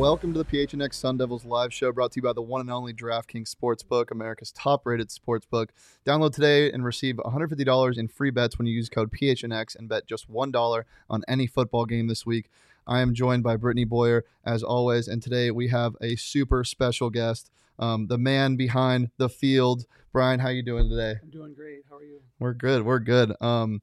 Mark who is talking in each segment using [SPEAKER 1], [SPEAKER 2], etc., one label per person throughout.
[SPEAKER 1] Welcome to the PHNX Sun Devils live show, brought to you by the one and only DraftKings Sportsbook, America's top-rated sportsbook. Download today and receive $150 in free bets when you use code PHNX and bet just $1 on any football game this week. I am joined by Brittany Boyer, as always, and today we have a super special guest, the man behind the field. Brian, how you doing today?
[SPEAKER 2] I'm doing great. How are you?
[SPEAKER 1] We're good.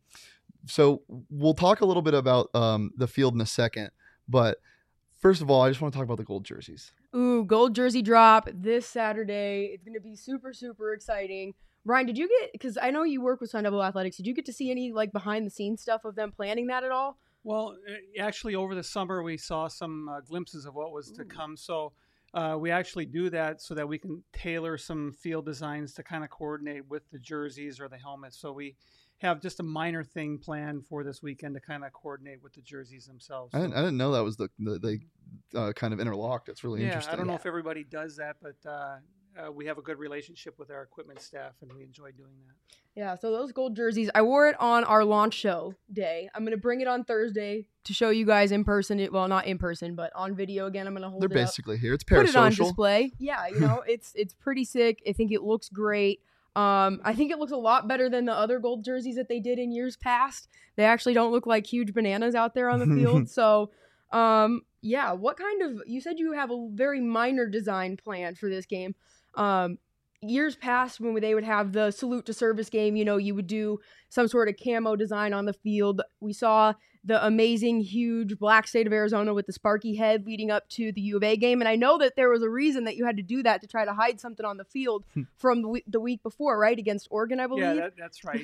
[SPEAKER 1] So we'll talk a little bit about the field in a second, but first of all, I just want to talk about the gold jerseys.
[SPEAKER 3] Ooh, gold jersey drop this Saturday. It's going to be super, super exciting. Brian, did you get, because I know you work with Sun Devil Athletics, did you get to see any behind the scenes stuff of them planning that at all?
[SPEAKER 2] Well, actually, over the summer, we saw some glimpses of what was to come. So we actually do that so that we can tailor some field designs to kind of coordinate with the jerseys or the helmets. So we have just a minor thing planned for this weekend to kind of coordinate with the jerseys themselves.
[SPEAKER 1] I didn't know that was they kind of interlocked. It's really interesting.
[SPEAKER 2] I don't know if everybody does that, but we have a good relationship with our equipment staff, and we enjoy doing that.
[SPEAKER 3] Yeah, so those gold jerseys, I wore it on our launch show day. I'm going to bring it on Thursday to show you guys in person. Well, not in person, but on video again. I'm going to hold
[SPEAKER 1] They're
[SPEAKER 3] it
[SPEAKER 1] basically
[SPEAKER 3] up,
[SPEAKER 1] here. It's
[SPEAKER 3] put it on
[SPEAKER 1] parasocial.
[SPEAKER 3] display. Yeah, it's pretty sick. I think it looks great. I think it looks a lot better than the other gold jerseys that they did in years past. They actually don't look like huge bananas out there on the field. So, yeah, what kind of, you said you have a very minor design plan for this game. Years past when they would have the salute to service game, you would do some sort of camo design on the field. We saw the amazing, huge black state of Arizona with the Sparky head leading up to the U of A game. And I know that there was a reason that you had to do that to try to hide something on the field from the week before, right? Against Oregon, I believe.
[SPEAKER 2] Yeah, that's right.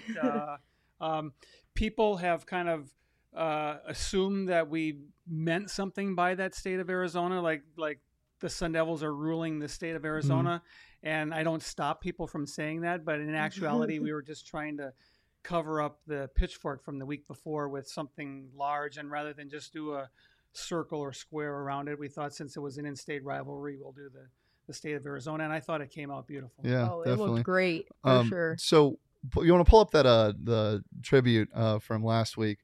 [SPEAKER 2] People have kind of assumed that we meant something by that state of Arizona, like the Sun Devils are ruling the state of Arizona. And I don't stop people from saying that, but in actuality, we were just trying to cover up the pitchfork from the week before with something large. And rather than just do a circle or square around it, we thought since it was an in-state rivalry, we'll do the state of Arizona. And I thought it came out beautiful.
[SPEAKER 1] Yeah,
[SPEAKER 3] it
[SPEAKER 1] definitely.
[SPEAKER 3] looked great, for sure.
[SPEAKER 1] So you want to pull up that the tribute from last week.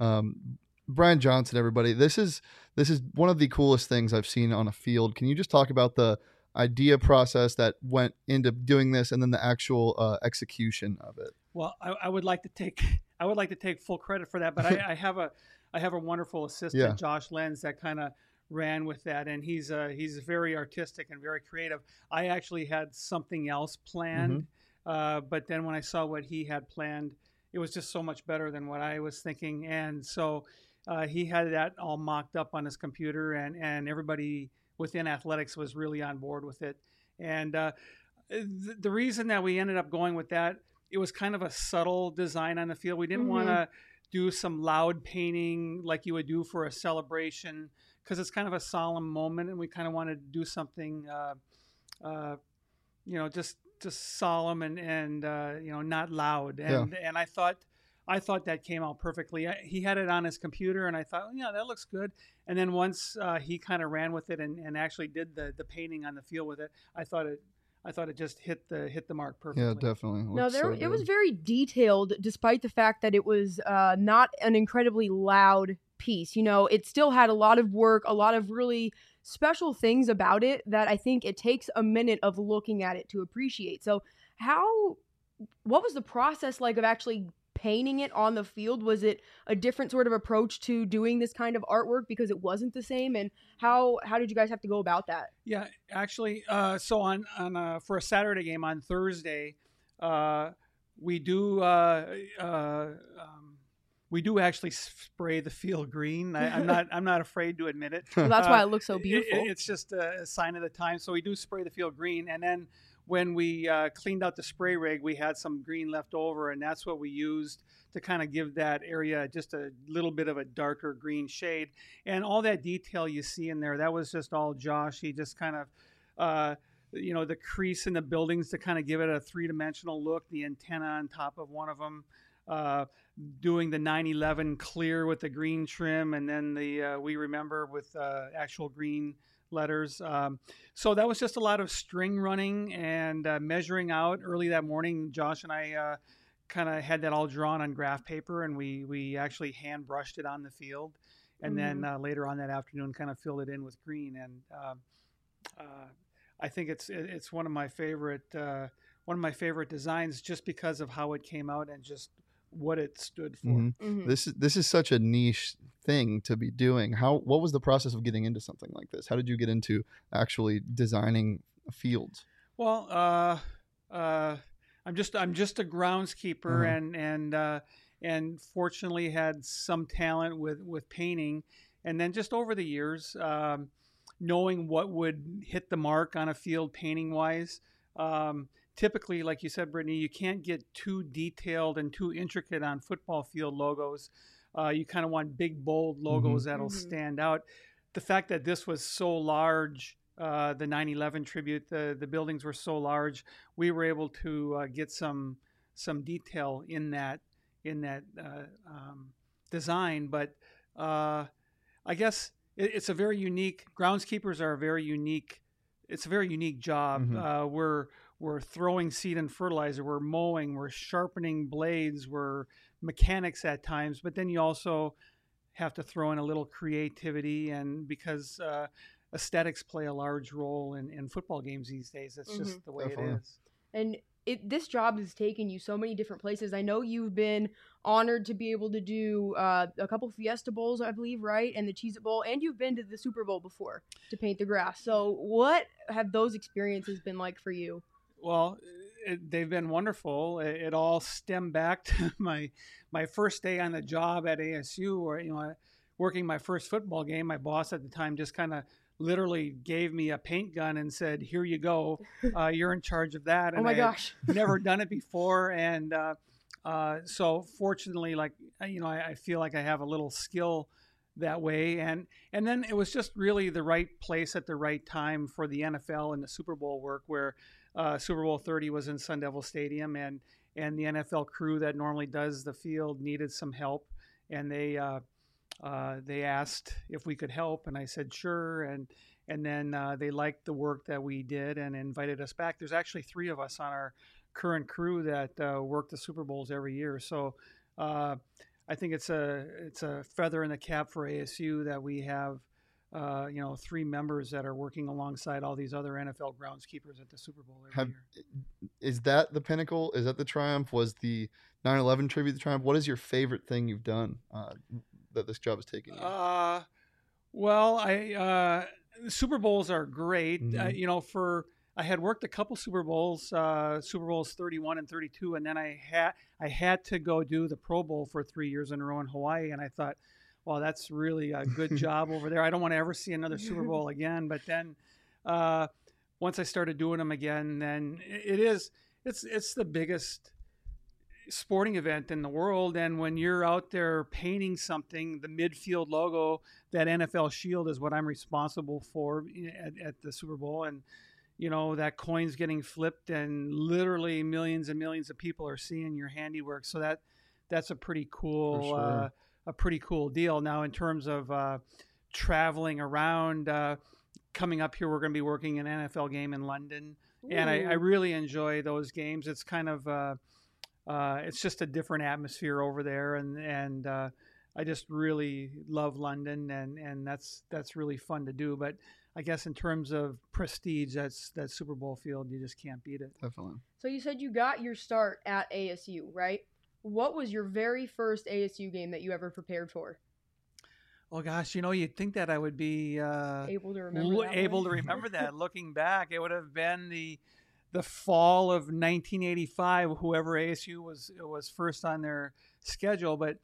[SPEAKER 1] Brian Johnson, everybody. This is one of the coolest things I've seen on a field. Can you just talk about the idea process that went into doing this and then the actual execution of it?
[SPEAKER 2] Well, I would like to take full credit for that, but I have a wonderful assistant, Josh Lenz, that kind of ran with that, and he's very artistic and very creative. I actually had something else planned, but then when I saw what he had planned, it was just so much better than what I was thinking, and so he had that all mocked up on his computer, and everybody within athletics was really on board with it. And the reason that we ended up going with that, it was kind of a subtle design on the field. We didn't want to do some loud painting like you would do for a celebration, because it's kind of a solemn moment, and we kind of wanted to do something, just solemn and not loud. And I thought that came out perfectly. He had it on his computer, and I thought, yeah, that looks good. And then once he kind of ran with it and actually did the painting on the field with it, I thought it just hit the mark perfectly.
[SPEAKER 1] Yeah, definitely.
[SPEAKER 3] It was very detailed, despite the fact that it was not an incredibly loud piece. It still had a lot of work, a lot of really special things about it that I think it takes a minute of looking at it to appreciate. So what was the process like of actually painting it on the field? Was it a different sort of approach to doing this kind of artwork because it wasn't the same? And how did you guys have to go about that?
[SPEAKER 2] Yeah, actually, so on for a Saturday game on Thursday, we do actually spray the field green. I'm not afraid to admit it.
[SPEAKER 3] Well, that's why it looks so beautiful.
[SPEAKER 2] It's just a sign of the time. So we do spray the field green, and then when we cleaned out the spray rig, we had some green left over, and that's what we used to kind of give that area just a little bit of a darker green shade. And all that detail you see in there, that was just all Josh. He just kind of, the crease in the buildings to kind of give it a three-dimensional look, the antenna on top of one of them, doing the 9/11 clear with the green trim, and then the We Remember with actual green letters. So that was just a lot of string running and measuring out. Early that morning, Josh and I kind of had that all drawn on graph paper, and we actually hand brushed it on the field. and then later on that afternoon, kind of filled it in with green. And I think it's one of my favorite designs, just because of how it came out and just what it stood for.
[SPEAKER 1] This is such a niche thing to be doing. What was the process of getting into something like this? How did you get into actually designing fields?
[SPEAKER 2] Well, I'm just a groundskeeper, and fortunately had some talent with painting, and then just over the years, knowing what would hit the mark on a field painting wise. Typically, like you said, Brittany, you can't get too detailed and too intricate on football field logos. You kind of want big, bold logos that'll stand out. The fact that this was so large, the 9/11 tribute, the buildings were so large, we were able to get some detail in that design. But I guess it's a very unique. Groundskeepers are a very unique. It's a very unique job. We're throwing seed and fertilizer, we're mowing, we're sharpening blades, we're mechanics at times, but then you also have to throw in a little creativity, and because aesthetics play a large role in football games these days. That's just the way it is.
[SPEAKER 3] And this job has taken you so many different places. I know you've been honored to be able to do a couple Fiesta Bowls, I believe, right? And the Cheez-It Bowl, and you've been to the Super Bowl before to paint the grass. So what have those experiences been like for you?
[SPEAKER 2] Well, they've been wonderful. It all stemmed back to my first day on the job at ASU, where working my first football game. My boss at the time just kind of literally gave me a paint gun and said, "Here you go. You're in charge of that." And
[SPEAKER 3] oh my gosh!
[SPEAKER 2] Never done it before, and so fortunately, I feel like I have a little skill that way, and then it was just really the right place at the right time for the NFL and the Super Bowl work, where Super Bowl 30 was in Sun Devil Stadium, and the NFL crew that normally does the field needed some help, and they asked if we could help, and I said sure, and then they liked the work that we did and invited us back. There's actually 3 of us on our current crew that work the Super Bowls every year, so I think it's a feather in the cap for ASU that we have 3 members that are working alongside all these other NFL groundskeepers at the Super Bowl every year.
[SPEAKER 1] Is that the pinnacle? Is that the triumph? Was the 9/11 tribute the triumph? What is your favorite thing you've done that this job has taken you?
[SPEAKER 2] Well, Super Bowls are great. I had worked a couple Super Bowls, Super Bowls 31 and 32, and then I had to go do the Pro Bowl for 3 years in a row in Hawaii, and I thought, well, that's really a good job over there. I don't want to ever see another Super Bowl again. But then once I started doing them again, then it's the biggest sporting event in the world. And when you're out there painting something, the midfield logo, that NFL shield is what I'm responsible for at the Super Bowl. And, that coin's getting flipped and literally millions and millions of people are seeing your handiwork. So that's a pretty cool,
[SPEAKER 1] sure.
[SPEAKER 2] A pretty cool deal. Now, in terms of traveling around, coming up here, we're going to be working an NFL game in London. Ooh. And I really enjoy those games. It's kind of it's just a different atmosphere over there, and I just really love London, and that's really fun to do. But I guess in terms of prestige, that's that Super Bowl field, you just can't beat it.
[SPEAKER 1] Definitely.
[SPEAKER 3] So you said you got your start at ASU, right? What was your very first ASU game that you ever prepared for?
[SPEAKER 2] Oh gosh, you'd think that I would be
[SPEAKER 3] able to remember
[SPEAKER 2] that. Looking back, it would have been the fall of 1985. Whoever ASU was first on their schedule, but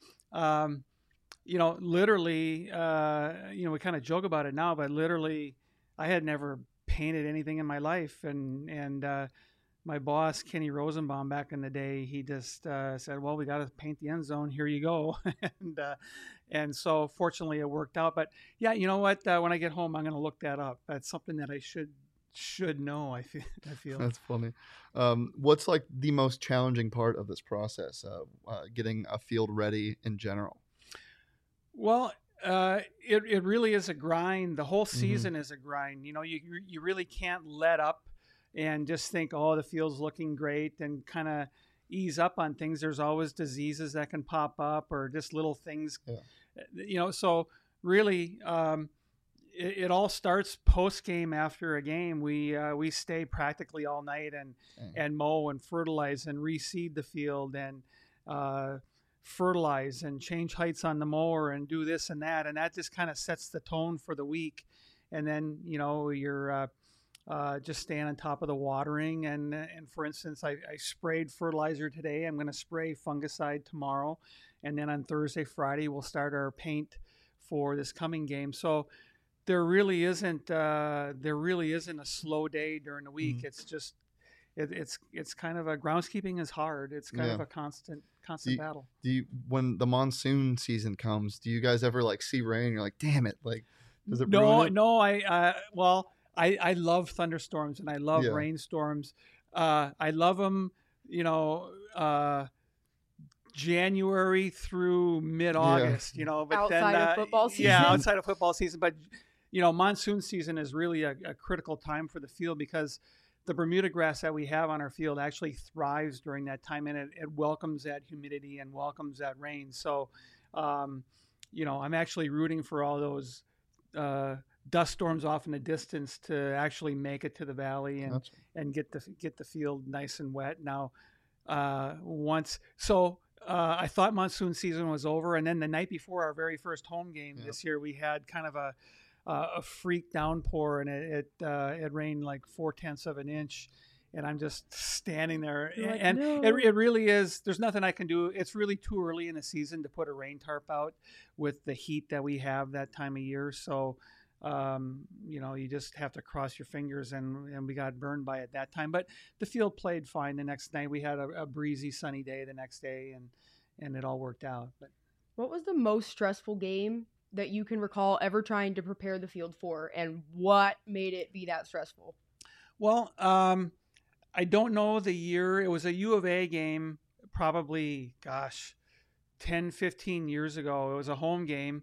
[SPEAKER 2] literally, we kind of joke about it now, but literally, I had never painted anything in my life, and my boss, Kenny Rosenbaum, back in the day, he just said, well, we got to paint the end zone. Here you go. and so fortunately it worked out. But yeah, you know what? When I get home, I'm going to look that up. That's something that I should know, I feel.
[SPEAKER 1] That's funny. What's like the most challenging part of this process, getting a field ready in general?
[SPEAKER 2] Well, it really is a grind. The whole season is a grind. You really can't let up and just think, oh, the field's looking great, and kind of ease up on things. There's always diseases that can pop up, or just little things, so really, it all starts post game. After a game, we stay practically all night and mow and fertilize and reseed the field and fertilize and change heights on the mower and do this and that just kind of sets the tone for the week. And then you're just staying on top of the watering and for instance, I sprayed fertilizer today. I'm going to spray fungicide tomorrow, and then on Thursday, Friday we'll start our paint for this coming game. So there really isn't a slow day during the week. It's just it's kind of a groundskeeping is hard. It's kind of a constant battle.
[SPEAKER 1] Do you, when the monsoon season comes, do you guys ever like see rain? You're like, damn it! Like, does it ruin it?
[SPEAKER 2] No. I love thunderstorms and I love rainstorms. I love them. January through mid-August. But
[SPEAKER 3] outside of football season.
[SPEAKER 2] Yeah, outside of football season, but monsoon season is really a critical time for the field because the Bermuda grass that we have on our field actually thrives during that time, and it welcomes that humidity and welcomes that rain. So, I'm actually rooting for all those dust storms off in the distance to actually make it to the valley and get the field nice and wet. Now, I thought monsoon season was over, and then the night before our very first home game this year, we had kind of a freak downpour, and it rained like 0.4 of an inch, and I'm just standing there, and it really is. There's nothing I can do. It's really too early in the season to put a rain tarp out with the heat that we have that time of year. So, you just have to cross your fingers, and we got burned by it that time. But the field played fine the next night. We had a breezy, sunny day the next day, and it all worked out. But
[SPEAKER 3] what was the most stressful game that you can recall ever trying to prepare the field for, and what made it be that stressful?
[SPEAKER 2] Well, I don't know the year. It was a U of A game, probably, 10, 15 years ago. It was a home game,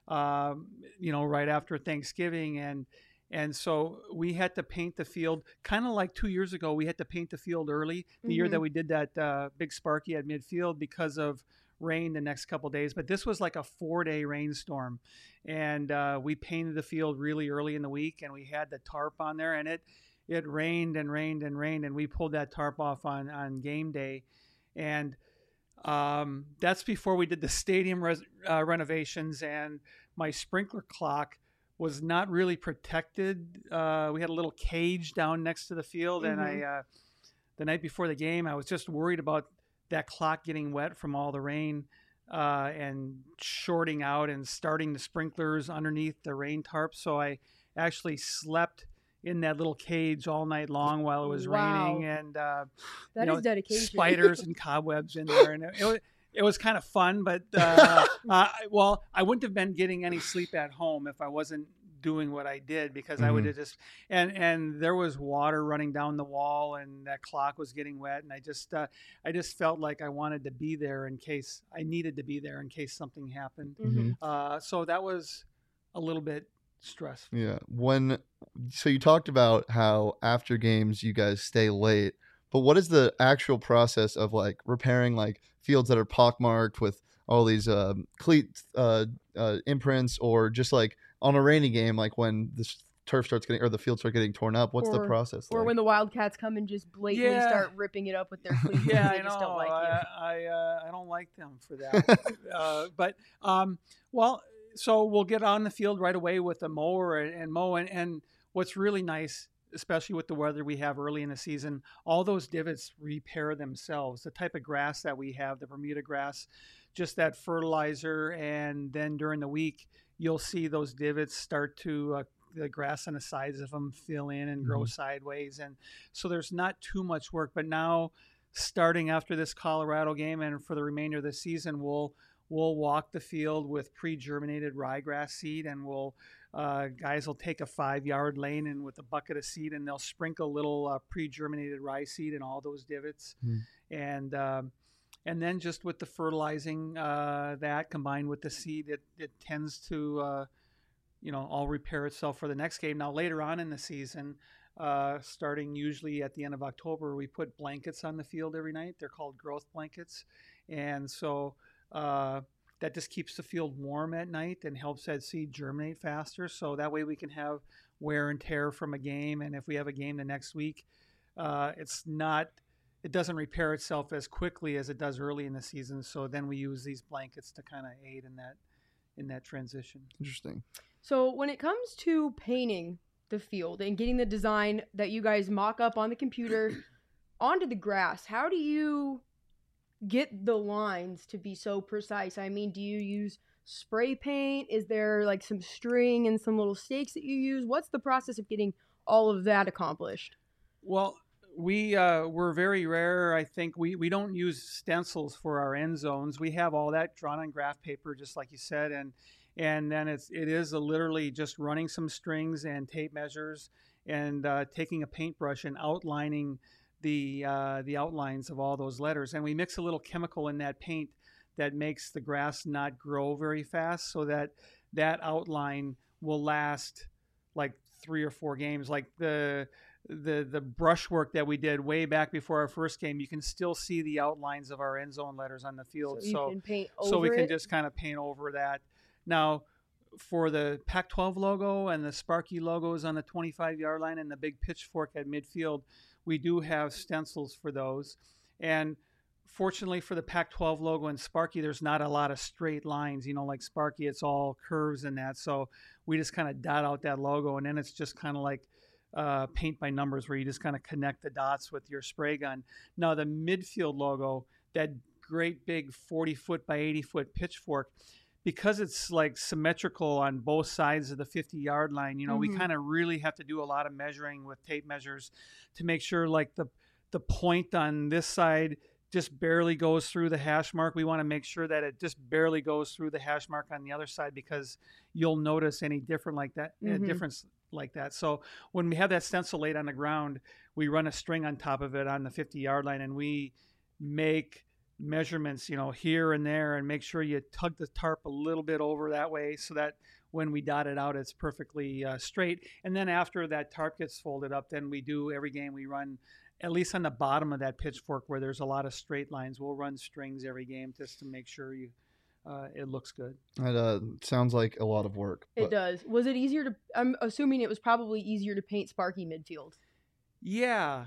[SPEAKER 2] right after Thanksgiving. And so we had to paint the field kind of like 2 years ago. We had to paint the field early, the year that we did that big Sparky at midfield because of rain the next couple of days. But this was like a 4-day rainstorm, and we painted the field really early in the week, and we had the tarp on there, and it rained and rained and rained, and we pulled that tarp off on game day. And that's before we did the stadium renovations, and my sprinkler clock was not really protected. We had a little cage down next to the field, and the night before the game, I was just worried about that clock getting wet from all the rain and shorting out and starting the sprinklers underneath the rain tarp. So I actually slept in that little cage all night long while it was raining, and
[SPEAKER 3] that is dedication.
[SPEAKER 2] Spiders and cobwebs in there, and it was kind of fun. But I wouldn't have been getting any sleep at home if I wasn't doing what I did, because I would have just and there was water running down the wall, and that clock was getting wet, and I just felt like I wanted to be there in case I needed to be there in case something happened. So that was a little bit stressful.
[SPEAKER 1] Yeah. So you talked about how after games you guys stay late, but what is the actual process of like repairing like fields that are pockmarked with all these cleat imprints, or just like on a rainy game, like when the turf starts getting, or the field starts getting torn up? What's the process
[SPEAKER 3] or
[SPEAKER 1] like?
[SPEAKER 3] when the Wildcats come and just blatantly start ripping it up with their cleats?
[SPEAKER 2] Yeah,
[SPEAKER 3] they
[SPEAKER 2] I know.
[SPEAKER 3] Just don't like you.
[SPEAKER 2] I don't like them for that. So we'll get on the field right away with the mower and mow. And what's really nice, especially with the weather we have early in the season, all those divots repair themselves. The type of grass that we have, the Bermuda grass, just that fertilizer, and then during the week, you'll see those divots start to the grass on the sides of them fill in and grow sideways. And so there's not too much work. But now, starting after this Colorado game and for the remainder of the season, we'll walk the field with pre-germinated ryegrass seed, and guys will take a 5-yard lane and with a bucket of seed, and they'll sprinkle little pre-germinated rye seed in all those divots. And then just with the fertilizing that combined with the seed, it tends to all repair itself for the next game. Now later on in the season, starting usually at the end of October, we put blankets on the field every night. They're called growth blankets, and so that just keeps the field warm at night and helps that seed germinate faster. So that way we can have wear and tear from a game. And if we have a game the next week, it doesn't repair itself as quickly as it does early in the season. So then we use these blankets to kind of aid in that transition.
[SPEAKER 1] Interesting.
[SPEAKER 3] So when it comes to painting the field and getting the design that you guys mock up on the computer onto the grass, how do you get the lines to be so precise? I mean, do you use spray paint? Is there like some string and some little stakes that you use? What's the process of getting all of that accomplished?
[SPEAKER 2] Well, we're very rare. I think we don't use stencils for our end zones. We have all that drawn on graph paper, just like you said, and then it is literally just running some strings and tape measures and taking a paintbrush and outlining the outlines of all those letters. And we mix a little chemical in that paint that makes the grass not grow very fast, so that outline will last like 3 or 4 games. Like the brushwork that we did way back before our first game, you can still see the outlines of our end zone letters on the field.
[SPEAKER 3] So
[SPEAKER 2] we can just kind of paint over that. Now, for the Pac-12 logo and the Sparky logos on the 25-yard line and the big pitchfork at midfield, we do have stencils for those. And fortunately for the Pac-12 logo and Sparky, there's not a lot of straight lines. Like Sparky, it's all curves and that. So we just kind of dot out that logo, and then it's just kind of like paint by numbers, where you just kind of connect the dots with your spray gun. Now, the midfield logo, that great big 40-foot by 80-foot pitchfork, because it's like symmetrical on both sides of the 50-yard line, we kind of really have to do a lot of measuring with tape measures to make sure like the point on this side just barely goes through the hash mark. We want to make sure that it just barely goes through the hash mark on the other side, because you'll notice any difference like that. So when we have that stencil laid on the ground, we run a string on top of it on the 50-yard line, and we make measurements, here and there, and make sure you tug the tarp a little bit over that way, so that when we dot it out, it's perfectly straight. And then after that tarp gets folded up, then every game we run, at least on the bottom of that pitchfork where there's a lot of straight lines, we'll run strings every game just to make sure it looks good.
[SPEAKER 1] It sounds like a lot of work.
[SPEAKER 3] It does. Was it easier to? I'm assuming it was probably easier to paint Sparky midfield.
[SPEAKER 2] Yeah.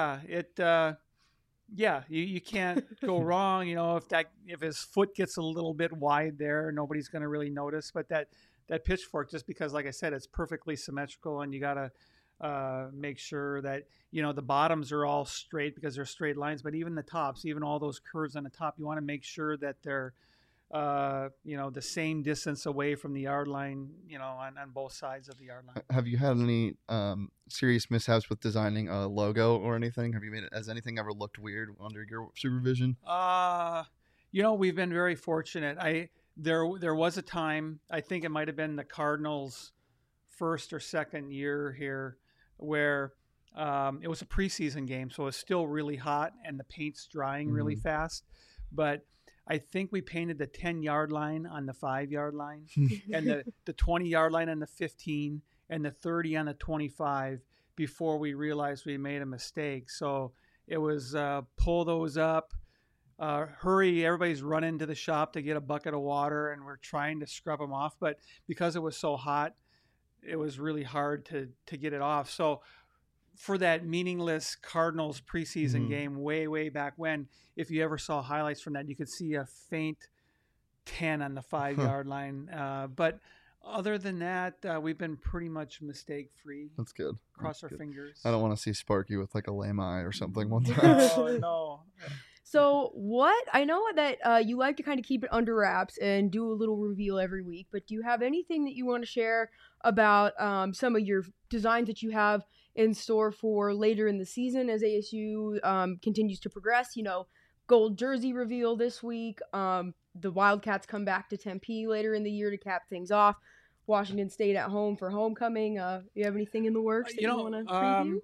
[SPEAKER 2] You can't go wrong. If his foot gets a little bit wide there, nobody's going to really notice. But that pitchfork, just because, like I said, it's perfectly symmetrical, and you got to make sure that the bottoms are all straight because they're straight lines. But even the tops, even all those curves on the top, you want to make sure that they're the same distance away from the yard line, on both sides of the yard line.
[SPEAKER 1] Have you had any serious mishaps with designing a logo or anything? Has anything ever looked weird under your supervision?
[SPEAKER 2] We've been very fortunate. There was a time, I think it might have been the Cardinals' first or second year here, where it was a preseason game, so it was still really hot and the paint's drying really fast. But I think we painted the 10-yard line on the 5-yard line and the 20-yard line on the 15 and the 30 on the 25 before we realized we made a mistake. So it was pull those up, hurry, everybody's running to the shop to get a bucket of water, and we're trying to scrub them off. But because it was so hot, it was really hard to get it off. So for that meaningless Cardinals preseason game way, way back when, if you ever saw highlights from that, you could see a faint 10 on the 5-yard line. But other than that, we've been pretty much mistake-free.
[SPEAKER 1] That's good.
[SPEAKER 2] Cross our fingers.
[SPEAKER 1] I don't want to see Sparky with like a lame eye or something one time.
[SPEAKER 2] Oh, no.
[SPEAKER 3] So I know that you like to kind of keep it under wraps and do a little reveal every week, but do you have anything that you want to share about some of your designs that you have in store for later in the season as ASU continues to progress? Gold jersey reveal this week. The Wildcats come back to Tempe later in the year to cap things off. Washington State at home for homecoming. You have anything in the works that you want to preview?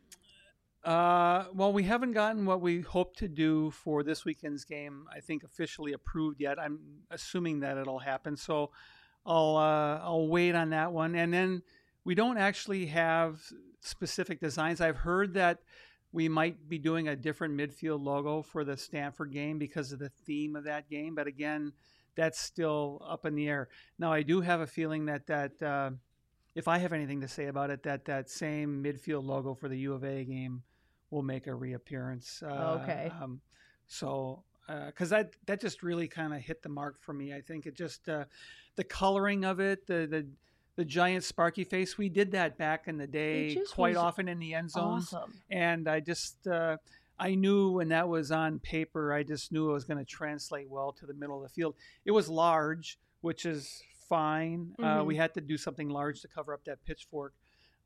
[SPEAKER 2] Well, we haven't gotten what we hope to do for this weekend's game, I think, officially approved yet. I'm assuming that it'll happen, so I'll wait on that one. And then we don't actually have specific designs. I've heard that we might be doing a different midfield logo for the Stanford game because of the theme of that game. But again, that's still up in the air. Now, I do have a feeling that if I have anything to say about it, that same midfield logo for the U of A game will make a reappearance.
[SPEAKER 3] Okay.
[SPEAKER 2] So, because that just really kind of hit the mark for me. I think it just the coloring of it, the giant sparky face. We did that back in the day quite often in the end zones,
[SPEAKER 3] awesome.
[SPEAKER 2] and I just I knew when that was on paper, I just knew it was going to translate well to the middle of the field. It was large, which is fine. We had to do something large to cover up that pitchfork,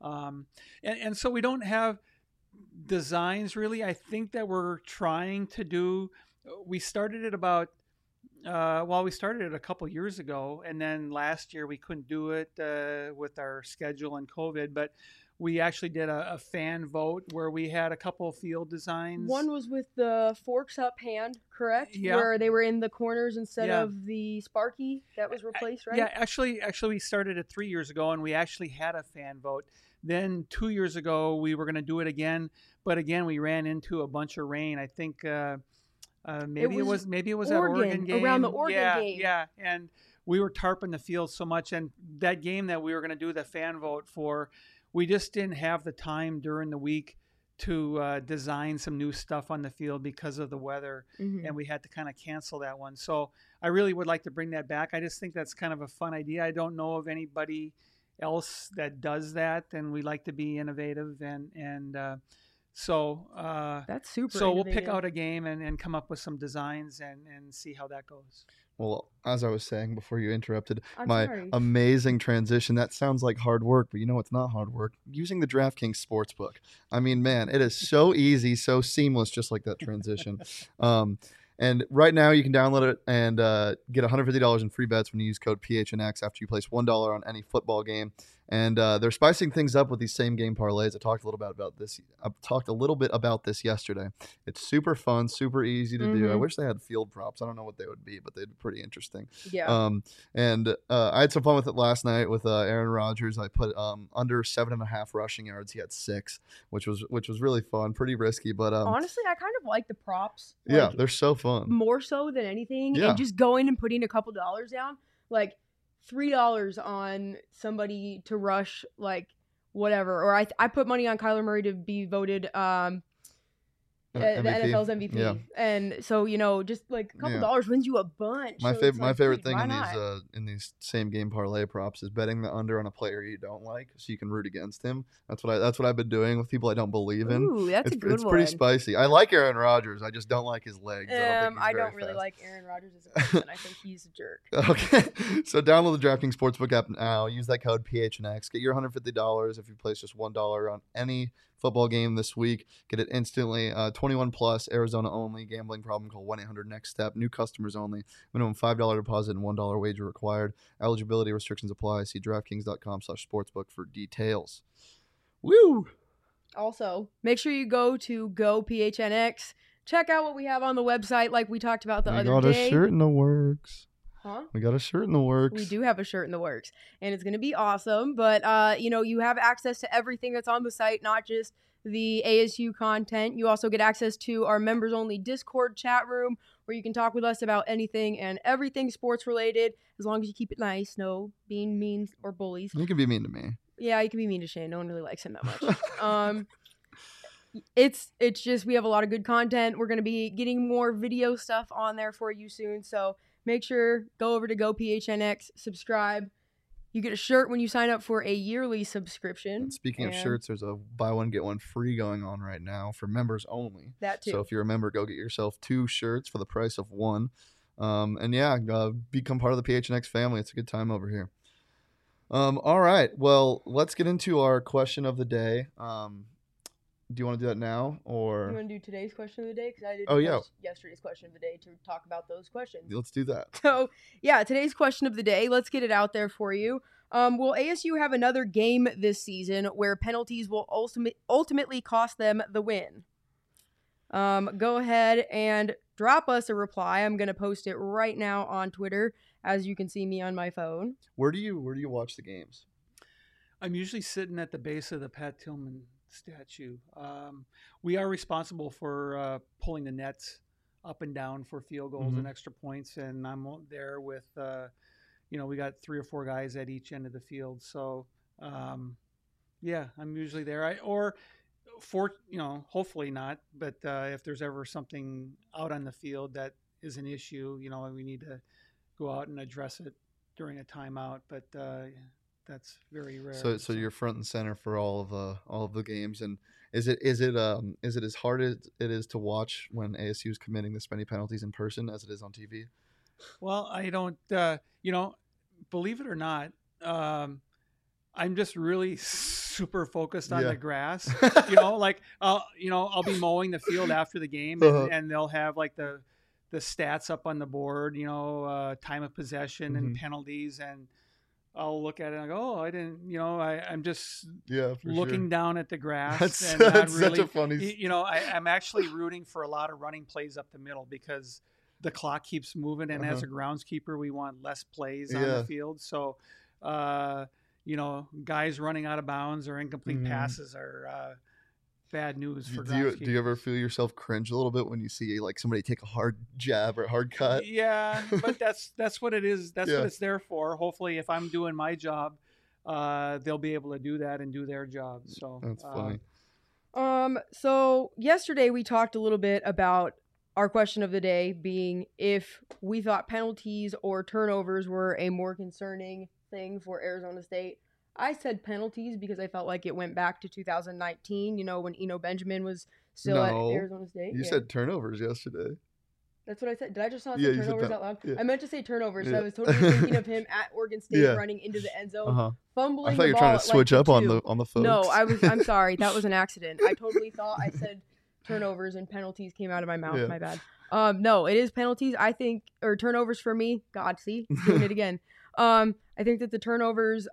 [SPEAKER 2] and so we don't have designs really. I think that we're trying to do. We started it about. We started it a couple years ago, and then last year we couldn't do it with our schedule and COVID. But we actually did a fan vote where we had a couple of field designs.
[SPEAKER 3] One was with the forks up hand, correct?
[SPEAKER 2] Yeah.
[SPEAKER 3] Where they were in the corners instead of the Sparky that was replaced, right?
[SPEAKER 2] Yeah, actually we started it 3 years ago, and we actually had a fan vote. Then 2 years ago we were going to do it again, but again we ran into a bunch of rain. I think. Maybe it was that Oregon game
[SPEAKER 3] around the Oregon game.
[SPEAKER 2] Yeah, and we were tarping the field so much, and that game that we were going to do the fan vote for, we just didn't have the time during the week to design some new stuff on the field because of the weather, and we had to kind of cancel that one. So I really would like to bring that back. I just think that's kind of a fun idea. I don't know of anybody else that does that, and we like to be innovative and. So
[SPEAKER 3] that's super.
[SPEAKER 2] So we'll pick out a game and come up with some designs and see how that goes.
[SPEAKER 1] Well, as I was saying before you interrupted,
[SPEAKER 3] sorry.
[SPEAKER 1] Amazing transition. That sounds like hard work, but you know it's not hard work. Using the DraftKings Sportsbook. I mean, man, it is so easy, so seamless, just like that transition. And right now you can download it and get $150 in free bets when you use code PHNX after you place $1 on any football game. And they're spicing things up with these same game parlays. I talked a little bit about this yesterday. It's super fun, super easy to do. I wish they had field props. I don't know what they would be, but they'd be pretty interesting.
[SPEAKER 3] Yeah.
[SPEAKER 1] And I had some fun with it last night with Aaron Rodgers. I put under 7.5 rushing yards. He had 6, which was really fun. Pretty risky, but
[SPEAKER 3] honestly, I kind of like the props.
[SPEAKER 1] Yeah, they're so fun.
[SPEAKER 3] More so than anything,
[SPEAKER 1] yeah.
[SPEAKER 3] And just going and putting a couple dollars down, like $3 on somebody to rush, like whatever. Or I put money on Kyler Murray to be voted the NFL's MVP.
[SPEAKER 1] Yeah.
[SPEAKER 3] And so, just like a couple dollars wins you a bunch.
[SPEAKER 1] My favorite thing in these same game parlay props is betting the under on a player you don't like, so you can root against him. That's what I've been doing with people I don't believe in.
[SPEAKER 3] Ooh, that's a good one.
[SPEAKER 1] It's pretty spicy. I like Aaron Rodgers. I just don't like his legs.
[SPEAKER 3] I don't really like Aaron Rodgers as a person. I think he's a jerk.
[SPEAKER 1] Okay, so download the DraftKings Sportsbook app now. Use that code PHNX. Get your $150 if you place just $1 on any football game this week. Get it instantly. 21 plus, Arizona only. Gambling problem, call 1-800-NEXT-STEP. New customers only. Minimum $5 deposit and $1 wager required. Eligibility restrictions apply. See DraftKings.com/sportsbook for details. Woo!
[SPEAKER 3] Also, make sure you go to GoPHNX. Check out what we have on the website like we talked about the other day.
[SPEAKER 1] We got a shirt in the works.
[SPEAKER 3] Huh?
[SPEAKER 1] We got a shirt in the works.
[SPEAKER 3] We do have a shirt in the works, and it's going to be awesome. But, you have access to everything that's on the site, not just the ASU content. You also get access to our members-only Discord chat room where you can talk with us about anything and everything sports-related, as long as you keep it nice, no being mean or bullies.
[SPEAKER 1] You can be mean to me.
[SPEAKER 3] Yeah, you can be mean to Shane. No one really likes him that much. It's just we have a lot of good content. We're going to be getting more video stuff on there for you soon, so make sure, go over to GoPHNX, subscribe. You get a shirt when you sign up for a yearly subscription.
[SPEAKER 1] And speaking of shirts, there's a buy one, get one free going on right now for members only.
[SPEAKER 3] That too.
[SPEAKER 1] So if you're a member, go get yourself 2 shirts for the price of 1. Become part of the PHNX family. It's a good time over here. All right. Well, let's get into our question of the day. Do you want to do that now, or
[SPEAKER 3] you want to do today's question of the day? Because I did yesterday's question of the day to talk about those questions.
[SPEAKER 1] Let's do that.
[SPEAKER 3] So, yeah, today's question of the day. Let's get it out there for you. Will ASU have another game this season where penalties will ultimately cost them the win? Go ahead and drop us a reply. I'm going to post it right now on Twitter, as you can see me on my phone.
[SPEAKER 1] Where do you watch the games?
[SPEAKER 2] I'm usually sitting at the base of the Pat Tillman statue. We are responsible for pulling the nets up and down for field goals and extra points, and I'm there with we got 3 or 4 guys at each end of the field. So yeah, I'm usually there. Hopefully not, but if there's ever something out on the field that is an issue, we need to go out and address it during a timeout. But that's very rare.
[SPEAKER 1] So you're front and center for all of the games, and is it as hard as it is to watch when ASU is committing this many penalties in person as it is on TV?
[SPEAKER 2] Well, I don't, believe it or not, I'm just really super focused on the grass. I'll be mowing the field after the game, and they'll have like the stats up on the board, time of possession and penalties, and I'll look at it and I go, oh, I didn't, I'm just looking down at the grass.
[SPEAKER 1] That's such a funny.
[SPEAKER 2] I'm actually rooting for a lot of running plays up the middle because the clock keeps moving, and as a groundskeeper, we want less plays on the field. So, guys running out of bounds or incomplete passes are bad news for groundskeepers.
[SPEAKER 1] Do you ever feel yourself cringe a little bit when you see like somebody take a hard jab or a hard cut?
[SPEAKER 2] Yeah, but that's what it is. That's what it's there for. Hopefully, if I'm doing my job, they'll be able to do that and do their job. So
[SPEAKER 1] that's funny.
[SPEAKER 3] So yesterday we talked a little bit about our question of the day being if we thought penalties or turnovers were a more concerning thing for Arizona State. I said penalties because I felt like it went back to 2019, when Eno Benjamin was still at Arizona State.
[SPEAKER 1] You said turnovers yesterday.
[SPEAKER 3] That's what I said. Did I just not say turnovers out loud?
[SPEAKER 1] Yeah.
[SPEAKER 3] I meant to say turnovers. So I was totally thinking of him at Oregon State running into the end zone, fumbling.
[SPEAKER 1] I thought you were trying to switch up on the folks.
[SPEAKER 3] No, I'm sorry. That was an accident. I totally thought I said turnovers and penalties came out of my mouth. My bad. No, it is penalties. I think, or turnovers for me. God, see, doing it again. I think that the turnovers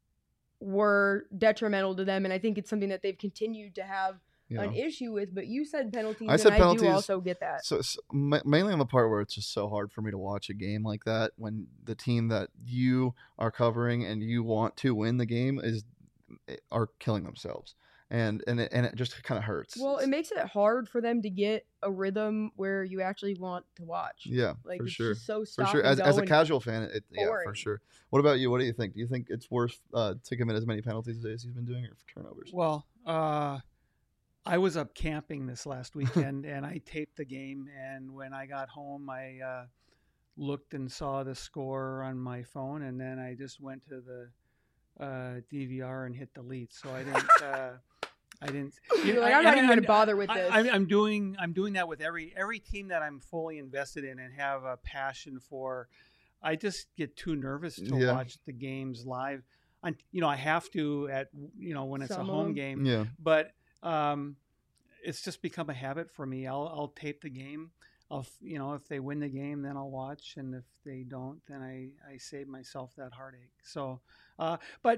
[SPEAKER 3] were detrimental to them, and I think it's something that they've continued to have an issue with. But you said penalties, I do also get that.
[SPEAKER 1] So mainly on the part where it's just so hard for me to watch a game like that when the team that you are covering and you want to win the game are killing themselves. And it just kind of hurts.
[SPEAKER 3] Well, it makes it hard for them to get a rhythm where you actually want to watch.
[SPEAKER 1] Yeah,
[SPEAKER 3] like
[SPEAKER 1] for
[SPEAKER 3] it's
[SPEAKER 1] sure.
[SPEAKER 3] Just so
[SPEAKER 1] for sure. As a casual fan, for sure. What about you? What do you think? Do you think it's worth to commit as many penalties as ASU's been doing, or for turnovers?
[SPEAKER 2] Well, I was up camping this last weekend, and I taped the game. And when I got home, I looked and saw the score on my phone, and then I just went to the DVR and hit delete. So I didn't.
[SPEAKER 3] You're like, I'm not even going to bother with this.
[SPEAKER 2] I'm doing that with every team that I'm fully invested in and have a passion for. I just get too nervous to watch the games live. I have to when it's a home game.
[SPEAKER 1] Yeah.
[SPEAKER 2] But it's just become a habit for me. I'll tape the game. If they win the game, then I'll watch, and if they don't, then I save myself that heartache. So, but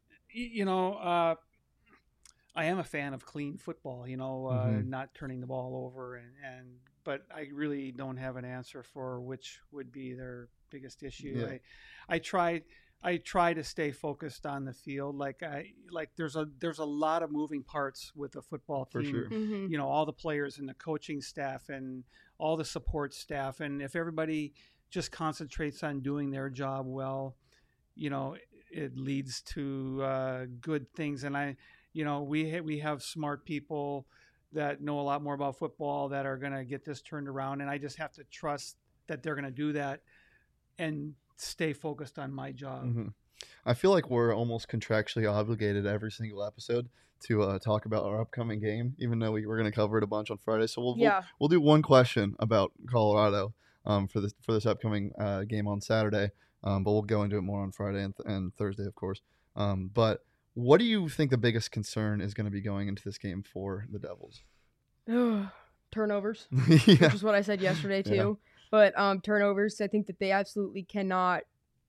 [SPEAKER 2] I am a fan of clean football. Not turning the ball over, but I really don't have an answer for which would be their biggest issue.
[SPEAKER 1] Yeah.
[SPEAKER 2] I try to stay focused on the field. There's a lot of moving parts with a football team.
[SPEAKER 1] For sure.
[SPEAKER 3] Mm-hmm.
[SPEAKER 2] All the players and the coaching staff and all the support staff. And if everybody just concentrates on doing their job well, it leads to good things. And we have smart people that know a lot more about football that are going to get this turned around. And I just have to trust that they're going to do that and stay focused on my job.
[SPEAKER 1] Mm-hmm. I feel like we're almost contractually obligated every single episode to talk about our upcoming game, even though we're going to cover it a bunch on Friday. So we'll do one question about Colorado for this upcoming game on Saturday, but we'll go into it more on Friday and Thursday, of course. But what do you think the biggest concern is going to be going into this game for the Devils?
[SPEAKER 3] Turnovers, which is what I said yesterday too. Yeah. But turnovers, I think that they absolutely cannot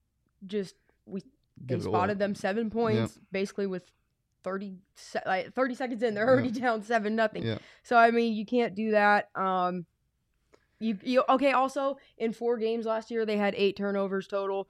[SPEAKER 3] they spotted them 7 points basically with 30 seconds in. They're already down 7-0.
[SPEAKER 1] Yeah.
[SPEAKER 3] So, I mean, you can't do that. Also, in 4 games last year, they had 8 turnovers total.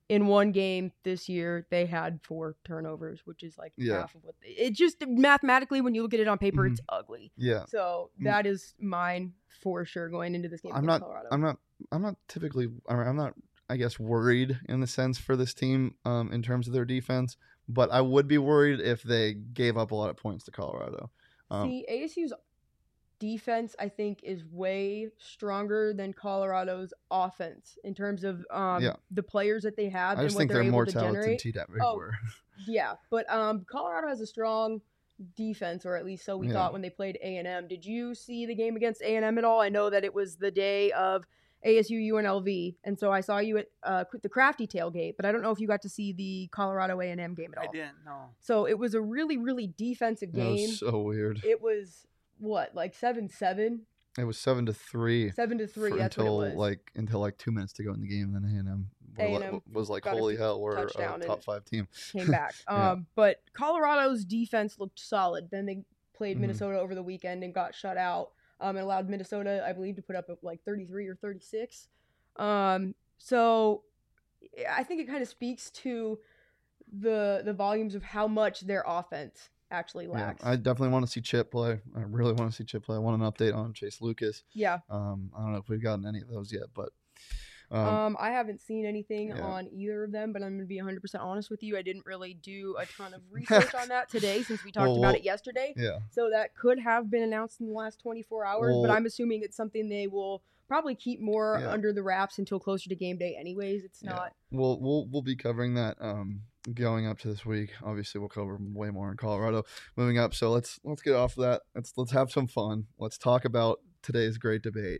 [SPEAKER 3] in one game this year, they had 4 turnovers, which is like
[SPEAKER 1] Yeah.
[SPEAKER 3] half of what it just mathematically, when you look at it on paper, it's ugly.
[SPEAKER 1] Yeah.
[SPEAKER 3] So that is mine for sure going into this game against Colorado.
[SPEAKER 1] I'm not typically, I'm not, I guess, worried in the sense for this team in terms of their defense, but I would be worried if they gave up a lot of points to Colorado.
[SPEAKER 3] See, ASU's defense, I think, is way stronger than Colorado's offense in terms of the players that they have.
[SPEAKER 1] I just
[SPEAKER 3] and what
[SPEAKER 1] think
[SPEAKER 3] they're
[SPEAKER 1] they're
[SPEAKER 3] able
[SPEAKER 1] more
[SPEAKER 3] to
[SPEAKER 1] talented
[SPEAKER 3] generate.
[SPEAKER 1] than TDAP were.
[SPEAKER 3] Yeah, but Colorado has a strong defense, or at least so we thought when they played A&M. Did you see the game against A&M at all? I know that it was the day of ASU UNLV, and so I saw you at the Crafty tailgate, but I don't know if you got to see the Colorado A&M game at all.
[SPEAKER 2] I didn't, no.
[SPEAKER 3] So it was a really, really defensive game.
[SPEAKER 1] It was so weird.
[SPEAKER 3] It was, what, like 7-7?
[SPEAKER 1] It was 7-3.
[SPEAKER 3] 7-3, that's what it was.
[SPEAKER 1] Until like 2 minutes to go in the game, and then A&M was like, holy hell, we're a top 5 team.
[SPEAKER 3] Came back. But Colorado's defense looked solid. Then they played Minnesota over the weekend and got shut out. And allowed Minnesota, I believe, to put up like 33 or 36. So I think it kind of speaks to the volumes of how much their offense actually lacks.
[SPEAKER 1] Yeah, I definitely want to see Chip play. I really want to see Chip play. I want an update on Chase Lucas.
[SPEAKER 3] Yeah.
[SPEAKER 1] I don't know if we've gotten any of those yet, but
[SPEAKER 3] I haven't seen anything on either of them, but I'm going to be 100% honest with you. I didn't really do a ton of research on that today since we talked about it yesterday.
[SPEAKER 1] Yeah.
[SPEAKER 3] So that could have been announced in the last 24 hours, but I'm assuming it's something they will probably keep more under the wraps until closer to game day anyways. It's not.
[SPEAKER 1] We'll be covering that going up to this week. Obviously, we'll cover way more in Colorado moving up. So let's get off of that. Let's have some fun. Let's talk about today's great debate.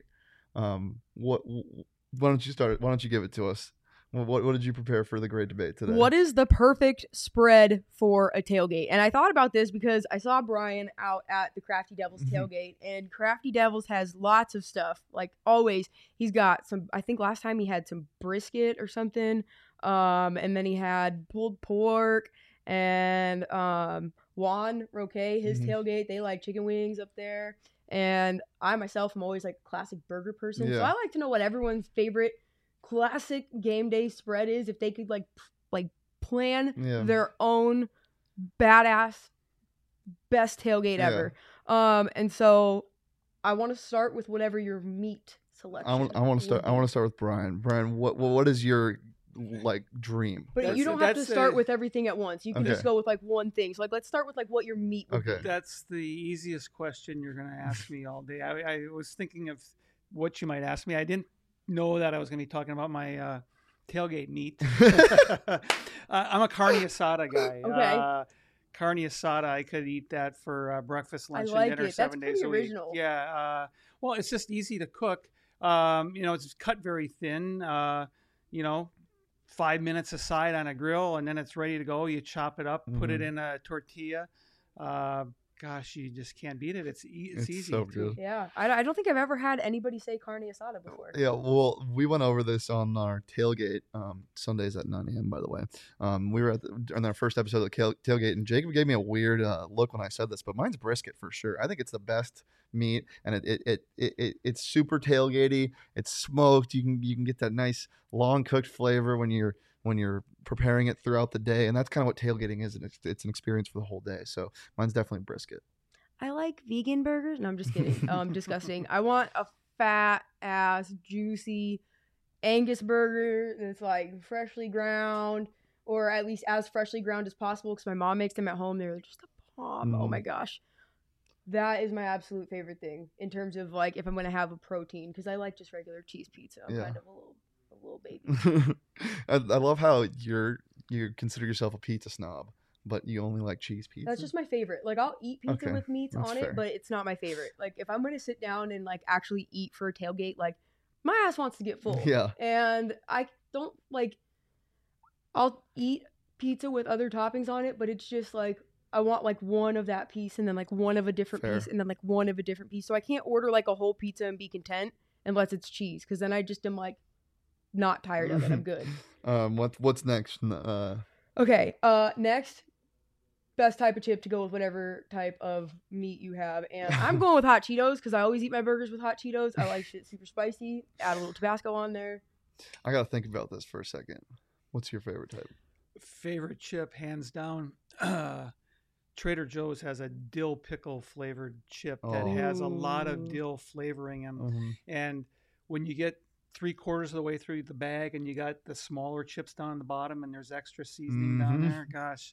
[SPEAKER 1] Why don't you start? Why don't you give it to us? What did you prepare for the great debate today?
[SPEAKER 3] What is the perfect spread for a tailgate? And I thought about this because I saw Brian out at the Crafty Devils tailgate, and Crafty Devils has lots of stuff. Like always, he's got some, I think last time he had some brisket or something. And then he had pulled pork and Juan Roque, his tailgate, they like chicken wings up there. And I myself am always like a classic burger person. So I like to know what everyone's favorite classic game day spread is, if they could like plan their own badass best tailgate ever. And so I want to start with whatever your meat selection.
[SPEAKER 1] I want to start with Brian. Brian, what is your like dream?
[SPEAKER 3] But you don't have to start with everything at once. You can just go with like one thing. So like let's start with like what your meat would be.
[SPEAKER 2] That's the easiest question you're going to ask me all day. I was thinking of what you might ask me. I didn't know that I was going to be talking about my tailgate meat. I'm a carne asada guy.
[SPEAKER 3] Okay.
[SPEAKER 2] Carne asada, I could eat that for breakfast, lunch,
[SPEAKER 3] and
[SPEAKER 2] dinner 7 days a week.
[SPEAKER 3] Original.
[SPEAKER 2] Yeah. Well, it's just easy to cook. It's cut very thin. 5 minutes aside on a grill, and then it's ready to go. You chop it up, put it in a tortilla. Gosh, you just can't beat it. It's easy.
[SPEAKER 1] So good.
[SPEAKER 3] Yeah, I don't think I've ever had anybody say carne asada before.
[SPEAKER 1] Yeah, well, we went over this on our tailgate, Sundays at 9 a.m., by the way. We were on our first episode of the tailgate, and Jacob gave me a weird look when I said this, but mine's brisket for sure. I think it's the best meat, and it's super tailgatey. It's smoked. You can get that nice long cooked flavor when you're preparing it throughout the day, and that's kind of what tailgating is. And it's an experience for the whole day. So mine's definitely brisket.
[SPEAKER 3] I like vegan burgers. No, I'm just kidding. Disgusting. I want a fat ass juicy Angus burger that's like freshly ground, or at least as freshly ground as possible, because my mom makes them at home. They're just a bomb. Oh my gosh. That is my absolute favorite thing in terms of like if I'm going to have a protein, because I like just regular cheese pizza. I'm kind of a little baby.
[SPEAKER 1] I love how you consider yourself a pizza snob, but you only like cheese pizza.
[SPEAKER 3] That's just my favorite. Like I'll eat pizza with meats on it, but it's not my favorite. Like if I'm going to sit down and like actually eat for a tailgate, like my ass wants to get full.
[SPEAKER 1] Yeah.
[SPEAKER 3] And I don't like, I'll eat pizza with other toppings on it, but it's just like, I want like one of that piece and then like one of a different piece and then like one of a different piece. So I can't order like a whole pizza and be content unless it's cheese, because then I just am like not tired of it. I'm good.
[SPEAKER 1] What's next?
[SPEAKER 3] Okay. Next, best type of chip to go with whatever type of meat you have, and I'm going with hot Cheetos because I always eat my burgers with hot Cheetos. I like shit super spicy. Add a little Tabasco on there.
[SPEAKER 1] I gotta think about this for a second. What's your favorite type?
[SPEAKER 2] Favorite chip, hands down. Trader Joe's has a dill pickle flavored chip that has a lot of dill flavoring in them. And when you get 3/4 of the way through the bag and you got the smaller chips down on the bottom and there's extra seasoning down there, gosh,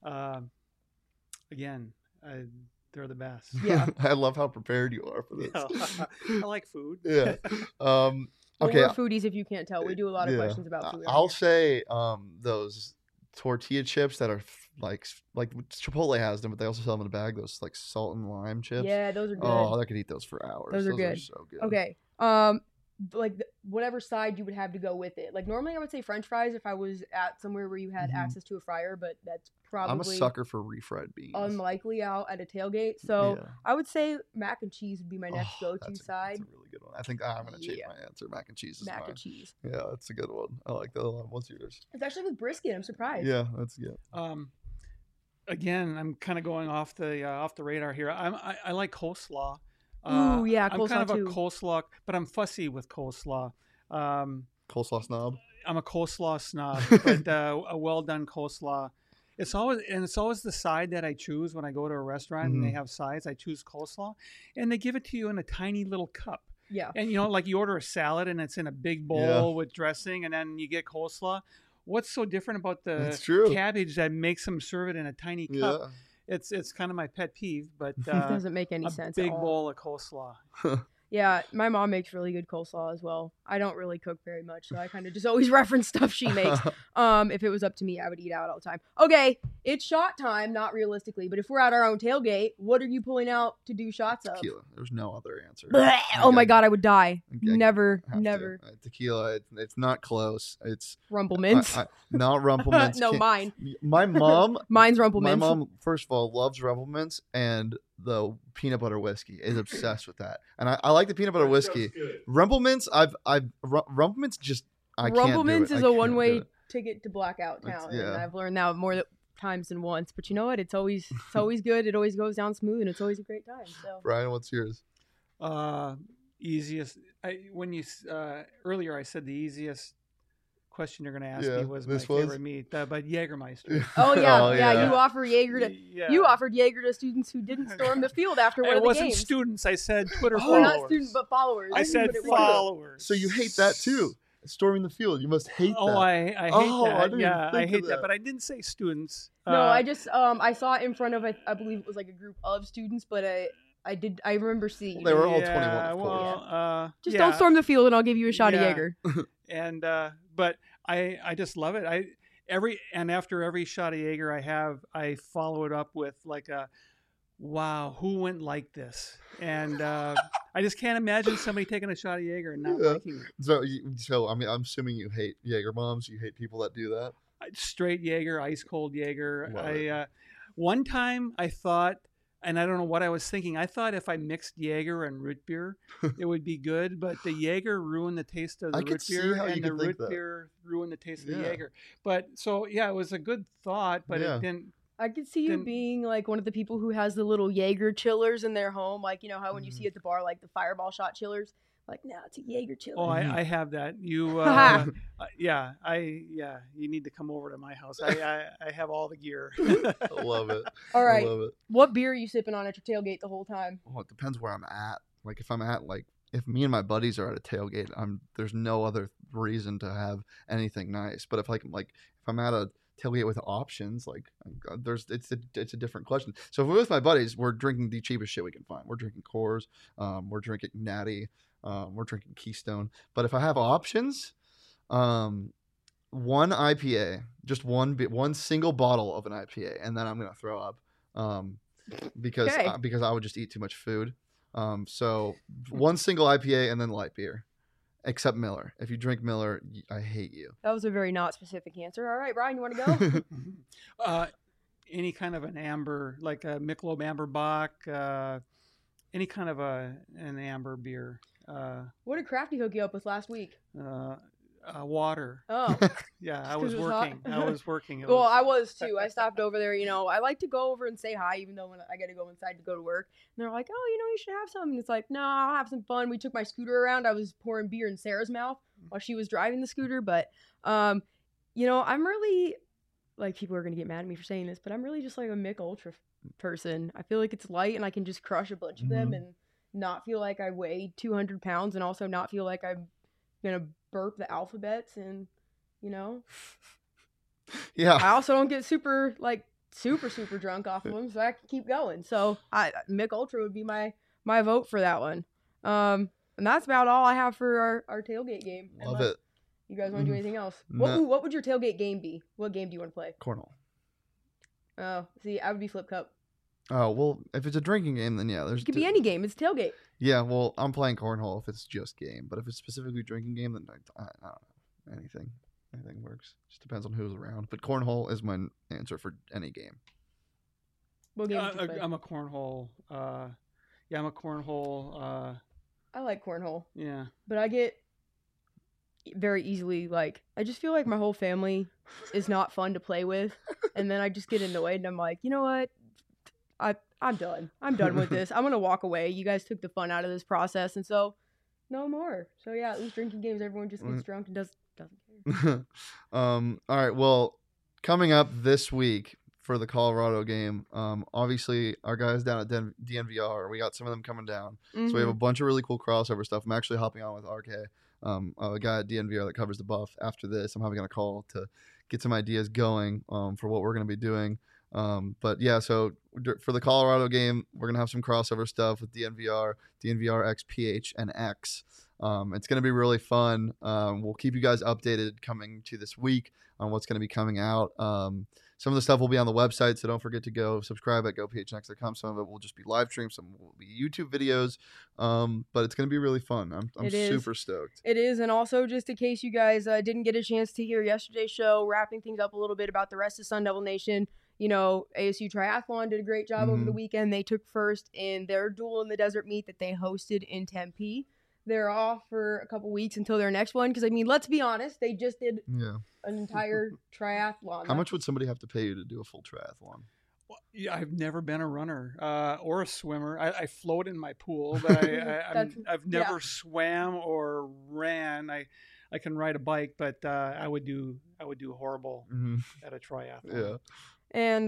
[SPEAKER 2] again, they're the best.
[SPEAKER 3] Yeah.
[SPEAKER 1] I love how prepared you are for this.
[SPEAKER 2] I like food.
[SPEAKER 1] Yeah. Okay.
[SPEAKER 3] We're foodies, if you can't tell. We do a lot of questions about food.
[SPEAKER 1] I'll say those tortilla chips that are like Chipotle has them, but they also sell them in a bag. Those like salt and lime chips.
[SPEAKER 3] Yeah, those are good.
[SPEAKER 1] Oh, I could eat those for hours.
[SPEAKER 3] Those are good.
[SPEAKER 1] So good.
[SPEAKER 3] Okay. Like whatever side you would have to go with it. Like normally I would say French fries if I was at somewhere where you had access to a fryer, but that's probably
[SPEAKER 1] I'm a sucker for refried beans.
[SPEAKER 3] Unlikely out at a tailgate. So I would say mac and cheese would be my next go-to side.
[SPEAKER 1] That's a really good one. I think I'm gonna change my answer. Mac and cheese is
[SPEAKER 3] mac
[SPEAKER 1] mine.
[SPEAKER 3] and cheese.
[SPEAKER 1] Yeah, that's a good one. I like that a lot. What's yours?
[SPEAKER 3] It's actually with brisket. I'm surprised.
[SPEAKER 1] Yeah, that's good.
[SPEAKER 2] Again, I'm kind of going off the radar here. I like coleslaw.
[SPEAKER 3] Ooh, yeah, coleslaw
[SPEAKER 2] I'm kind of
[SPEAKER 3] too.
[SPEAKER 2] a coleslaw, but I'm fussy with coleslaw.
[SPEAKER 1] Coleslaw snob.
[SPEAKER 2] I'm a coleslaw snob, but a well done coleslaw. It's always the side that I choose when I go to a restaurant and they have sides. I choose coleslaw, and they give it to you in a tiny little cup.
[SPEAKER 3] Yeah.
[SPEAKER 2] And like you order a salad and it's in a big bowl with dressing, and then you get coleslaw. What's so different about the cabbage that makes them serve it in a tiny cup?
[SPEAKER 1] Yeah.
[SPEAKER 2] It's kind of my pet peeve, but
[SPEAKER 3] it doesn't make any sense.
[SPEAKER 2] A big bowl of coleslaw.
[SPEAKER 3] Yeah, my mom makes really good coleslaw as well. I don't really cook very much, so I kind of just always reference stuff she makes. If it was up to me, I would eat out all the time. Okay, it's shot time, not realistically, but if we're at our own tailgate, what are you pulling out to do shots of?
[SPEAKER 1] Tequila. There's no other answer.
[SPEAKER 3] Oh my God, I would die.
[SPEAKER 1] Okay.
[SPEAKER 3] Never.
[SPEAKER 1] Tequila, it's not close. It's
[SPEAKER 3] Rumple Mints.
[SPEAKER 1] Not Rumple Mints.
[SPEAKER 3] No, mine.
[SPEAKER 1] My mom.
[SPEAKER 3] Mine's Rumple Mints.
[SPEAKER 1] My mom, first of all, loves Rumple Mints, and the peanut butter whiskey is obsessed with that. And I like the peanut butter whiskey. Rumple Mints, Rumple Mints just I can't do it.
[SPEAKER 3] Rumple Mints is a one-way ticket to Blackout Town, and I've learned that more times than once. But you know what? It's always good. It always goes down smooth, and it's always a great time. So,
[SPEAKER 1] Brian, what's yours?
[SPEAKER 2] Easiest. Earlier I said the easiest question you're going to ask me was my favorite meat, but Jägermeister.
[SPEAKER 3] Oh yeah. You offer Jaeger to you offered Jaeger to students who didn't storm the field after one of the games.
[SPEAKER 2] It wasn't students. I said Twitter followers.
[SPEAKER 3] Not students, but followers.
[SPEAKER 2] I said followers.
[SPEAKER 1] So you hate that too? Storming the field. You must hate that.
[SPEAKER 2] Oh, I hate that. I hate that. But I didn't say students.
[SPEAKER 3] No, I just I saw it in front of I believe it was like a group of students, but I remember seeing.
[SPEAKER 1] Well, they were all 21. Of course.
[SPEAKER 3] Just don't storm the field, and I'll give you a shot of Jaeger.
[SPEAKER 2] And but I just love it. After every shot of Jaeger I follow it up with like a, wow, who went like this? And I just can't imagine somebody taking a shot of Jaeger and not liking it.
[SPEAKER 1] So I mean, I'm assuming you hate Jaeger bombs. You hate people that do that.
[SPEAKER 2] Straight Jaeger, ice cold Jaeger. One time I thought, and I don't know what I was thinking. I thought if I mixed Jaeger and root beer, it would be good. But the Jaeger ruined the taste of the root beer, and the root beer ruined the taste of the Jaeger. But so it was a good thought, but it didn't.
[SPEAKER 3] I could see you being like one of the people who has the little Jaeger chillers in their home, like you know how when you see at the bar like the Fireball shot chillers. Like, no, it's a Jaeger chiller.
[SPEAKER 2] Oh, I have that. You, you need to come over to my house. I have all the gear.
[SPEAKER 1] I love it.
[SPEAKER 3] All right.
[SPEAKER 1] I love it.
[SPEAKER 3] What beer are you sipping on at your tailgate the whole time?
[SPEAKER 1] Oh, it depends where I'm at. Like, if I'm at, if me and my buddies are at a tailgate, there's no other reason to have anything nice. But if I'm at a tailgate with options, it's a different question. So if we're with my buddies, we're drinking the cheapest shit we can find. We're drinking Coors. We're drinking Natty. We're drinking Keystone. But if I have options, one IPA, just one single bottle of an IPA, and then I'm gonna throw up because I would just eat too much food. So one single IPA and then light beer, except Miller. If you drink Miller, I hate you.
[SPEAKER 3] That was a very not specific answer. All right, Brian, you want to
[SPEAKER 2] go? Any kind of an amber, like a Michelob Amber Bock, any kind of an amber beer.
[SPEAKER 3] What did Crafty hook you up with last week?
[SPEAKER 2] Water.
[SPEAKER 3] Oh.
[SPEAKER 2] Yeah, I was working.
[SPEAKER 3] Well, I was too. I stopped over there. I like to go over and say hi, even though when I got to go inside to go to work. And they're like, oh, you should have some. And it's like, no, I'll have some fun. We took my scooter around. I was pouring beer in Sarah's mouth while she was driving the scooter. But I'm really, like, people are going to get mad at me for saying this, but I'm really just like a Mick Ultra person. I feel like it's light and I can just crush a bunch of them and not feel like I weigh 200 pounds and also not feel like I'm going to burp the alphabets and,
[SPEAKER 1] Yeah.
[SPEAKER 3] I also don't get super drunk off of them, so I can keep going. So Mick Ultra would be my vote for that one. And that's about all I have for our tailgate game.
[SPEAKER 1] Love it.
[SPEAKER 3] You guys want to do anything else?
[SPEAKER 1] No.
[SPEAKER 3] What would your tailgate game be? What game do you want to play?
[SPEAKER 1] Cornhole.
[SPEAKER 3] Oh, see, I would be Flip Cup.
[SPEAKER 1] Oh, well, if it's a drinking game, then yeah.
[SPEAKER 3] It could be any game. It's tailgate.
[SPEAKER 1] Yeah, well, I'm playing cornhole if it's just game. But if it's specifically drinking game, then I don't know. Anything works. Just depends on who's around. But cornhole is my answer for any game.
[SPEAKER 3] What game do you play?
[SPEAKER 2] I'm a cornhole. I'm a cornhole.
[SPEAKER 3] I like cornhole.
[SPEAKER 2] Yeah.
[SPEAKER 3] But I get very easily, like, I just feel like my whole family is not fun to play with. And then I just get annoyed and I'm like, you know what? I'm done. I'm done with this. I'm going to walk away. You guys took the fun out of this process. And so, no more. So, yeah, at least drinking games, everyone just gets drunk and doesn't care.
[SPEAKER 1] All right. Well, coming up this week for the Colorado game, obviously our guys down at DNVR, we got some of them coming down. So we have a bunch of really cool crossover stuff. I'm actually hopping on with RK, a guy at DNVR that covers the Buff. After this, I'm having a call to get some ideas going for what we're going to be doing. But yeah, so for the Colorado game, we're going to have some crossover stuff with DNVR X, PH, and X. It's going to be really fun. We'll keep you guys updated coming to this week on what's going to be coming out. Some of the stuff will be on the website, so don't forget to go subscribe at gophnx.com. Some of it will just be live stream, some will be YouTube videos, but it's going to be really fun. I'm super stoked.
[SPEAKER 3] It is, and also just in case you guys didn't get a chance to hear yesterday's show, wrapping things up a little bit about the rest of Sun Devil Nation, ASU Triathlon did a great job over the weekend. They took first in their Duel in the Desert meet that they hosted in Tempe. They're off for a couple weeks until their next one. Because, let's be honest, they just did an entire triathlon.
[SPEAKER 1] How much would somebody have to pay you to do a full triathlon?
[SPEAKER 2] Well, yeah, I've never been a runner or a swimmer. I float in my pool, but I've never swam or ran. I can ride a bike, but I would do horrible at a triathlon.
[SPEAKER 1] Yeah.
[SPEAKER 3] And,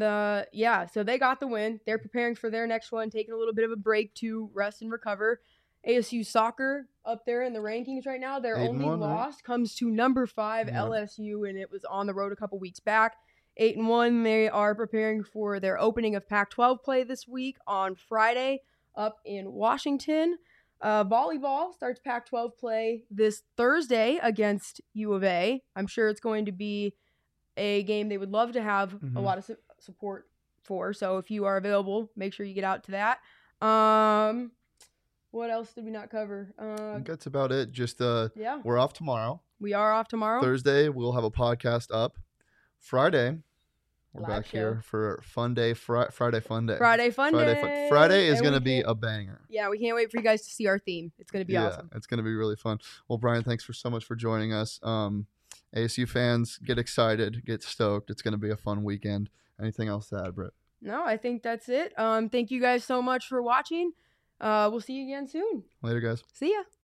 [SPEAKER 3] so they got the win. They're preparing for their next one, taking a little bit of a break to rest and recover. ASU soccer up there in the rankings right now. Their only loss comes to number 5 LSU, and it was on the road a couple weeks back. 8-1. They are preparing for their opening of Pac-12 play this week on Friday up in Washington. Volleyball starts Pac-12 play this Thursday against U of A. I'm sure it's going to be a game they would love to have a lot of support for. So if you are available, make sure you get out to that. What else did we not cover?
[SPEAKER 1] I think that's about it. Just we're off tomorrow.
[SPEAKER 3] We are off tomorrow.
[SPEAKER 1] Thursday, we'll have a podcast up. Friday, we're
[SPEAKER 3] Live
[SPEAKER 1] back
[SPEAKER 3] show.
[SPEAKER 1] here for Fun Day, Friday Fun Day.
[SPEAKER 3] Friday Fun Day.
[SPEAKER 1] Friday is going to be a banger.
[SPEAKER 3] Yeah, we can't wait for you guys to see our theme. It's going to be awesome.
[SPEAKER 1] It's going to be really fun. Well, Brian, thanks so much for joining us. ASU fans, get excited, get stoked. It's going to be a fun weekend. Anything else to add, Britt?
[SPEAKER 3] No, I think that's it. Thank you guys so much for watching. We'll see you again soon.
[SPEAKER 1] Later, guys.
[SPEAKER 3] See ya.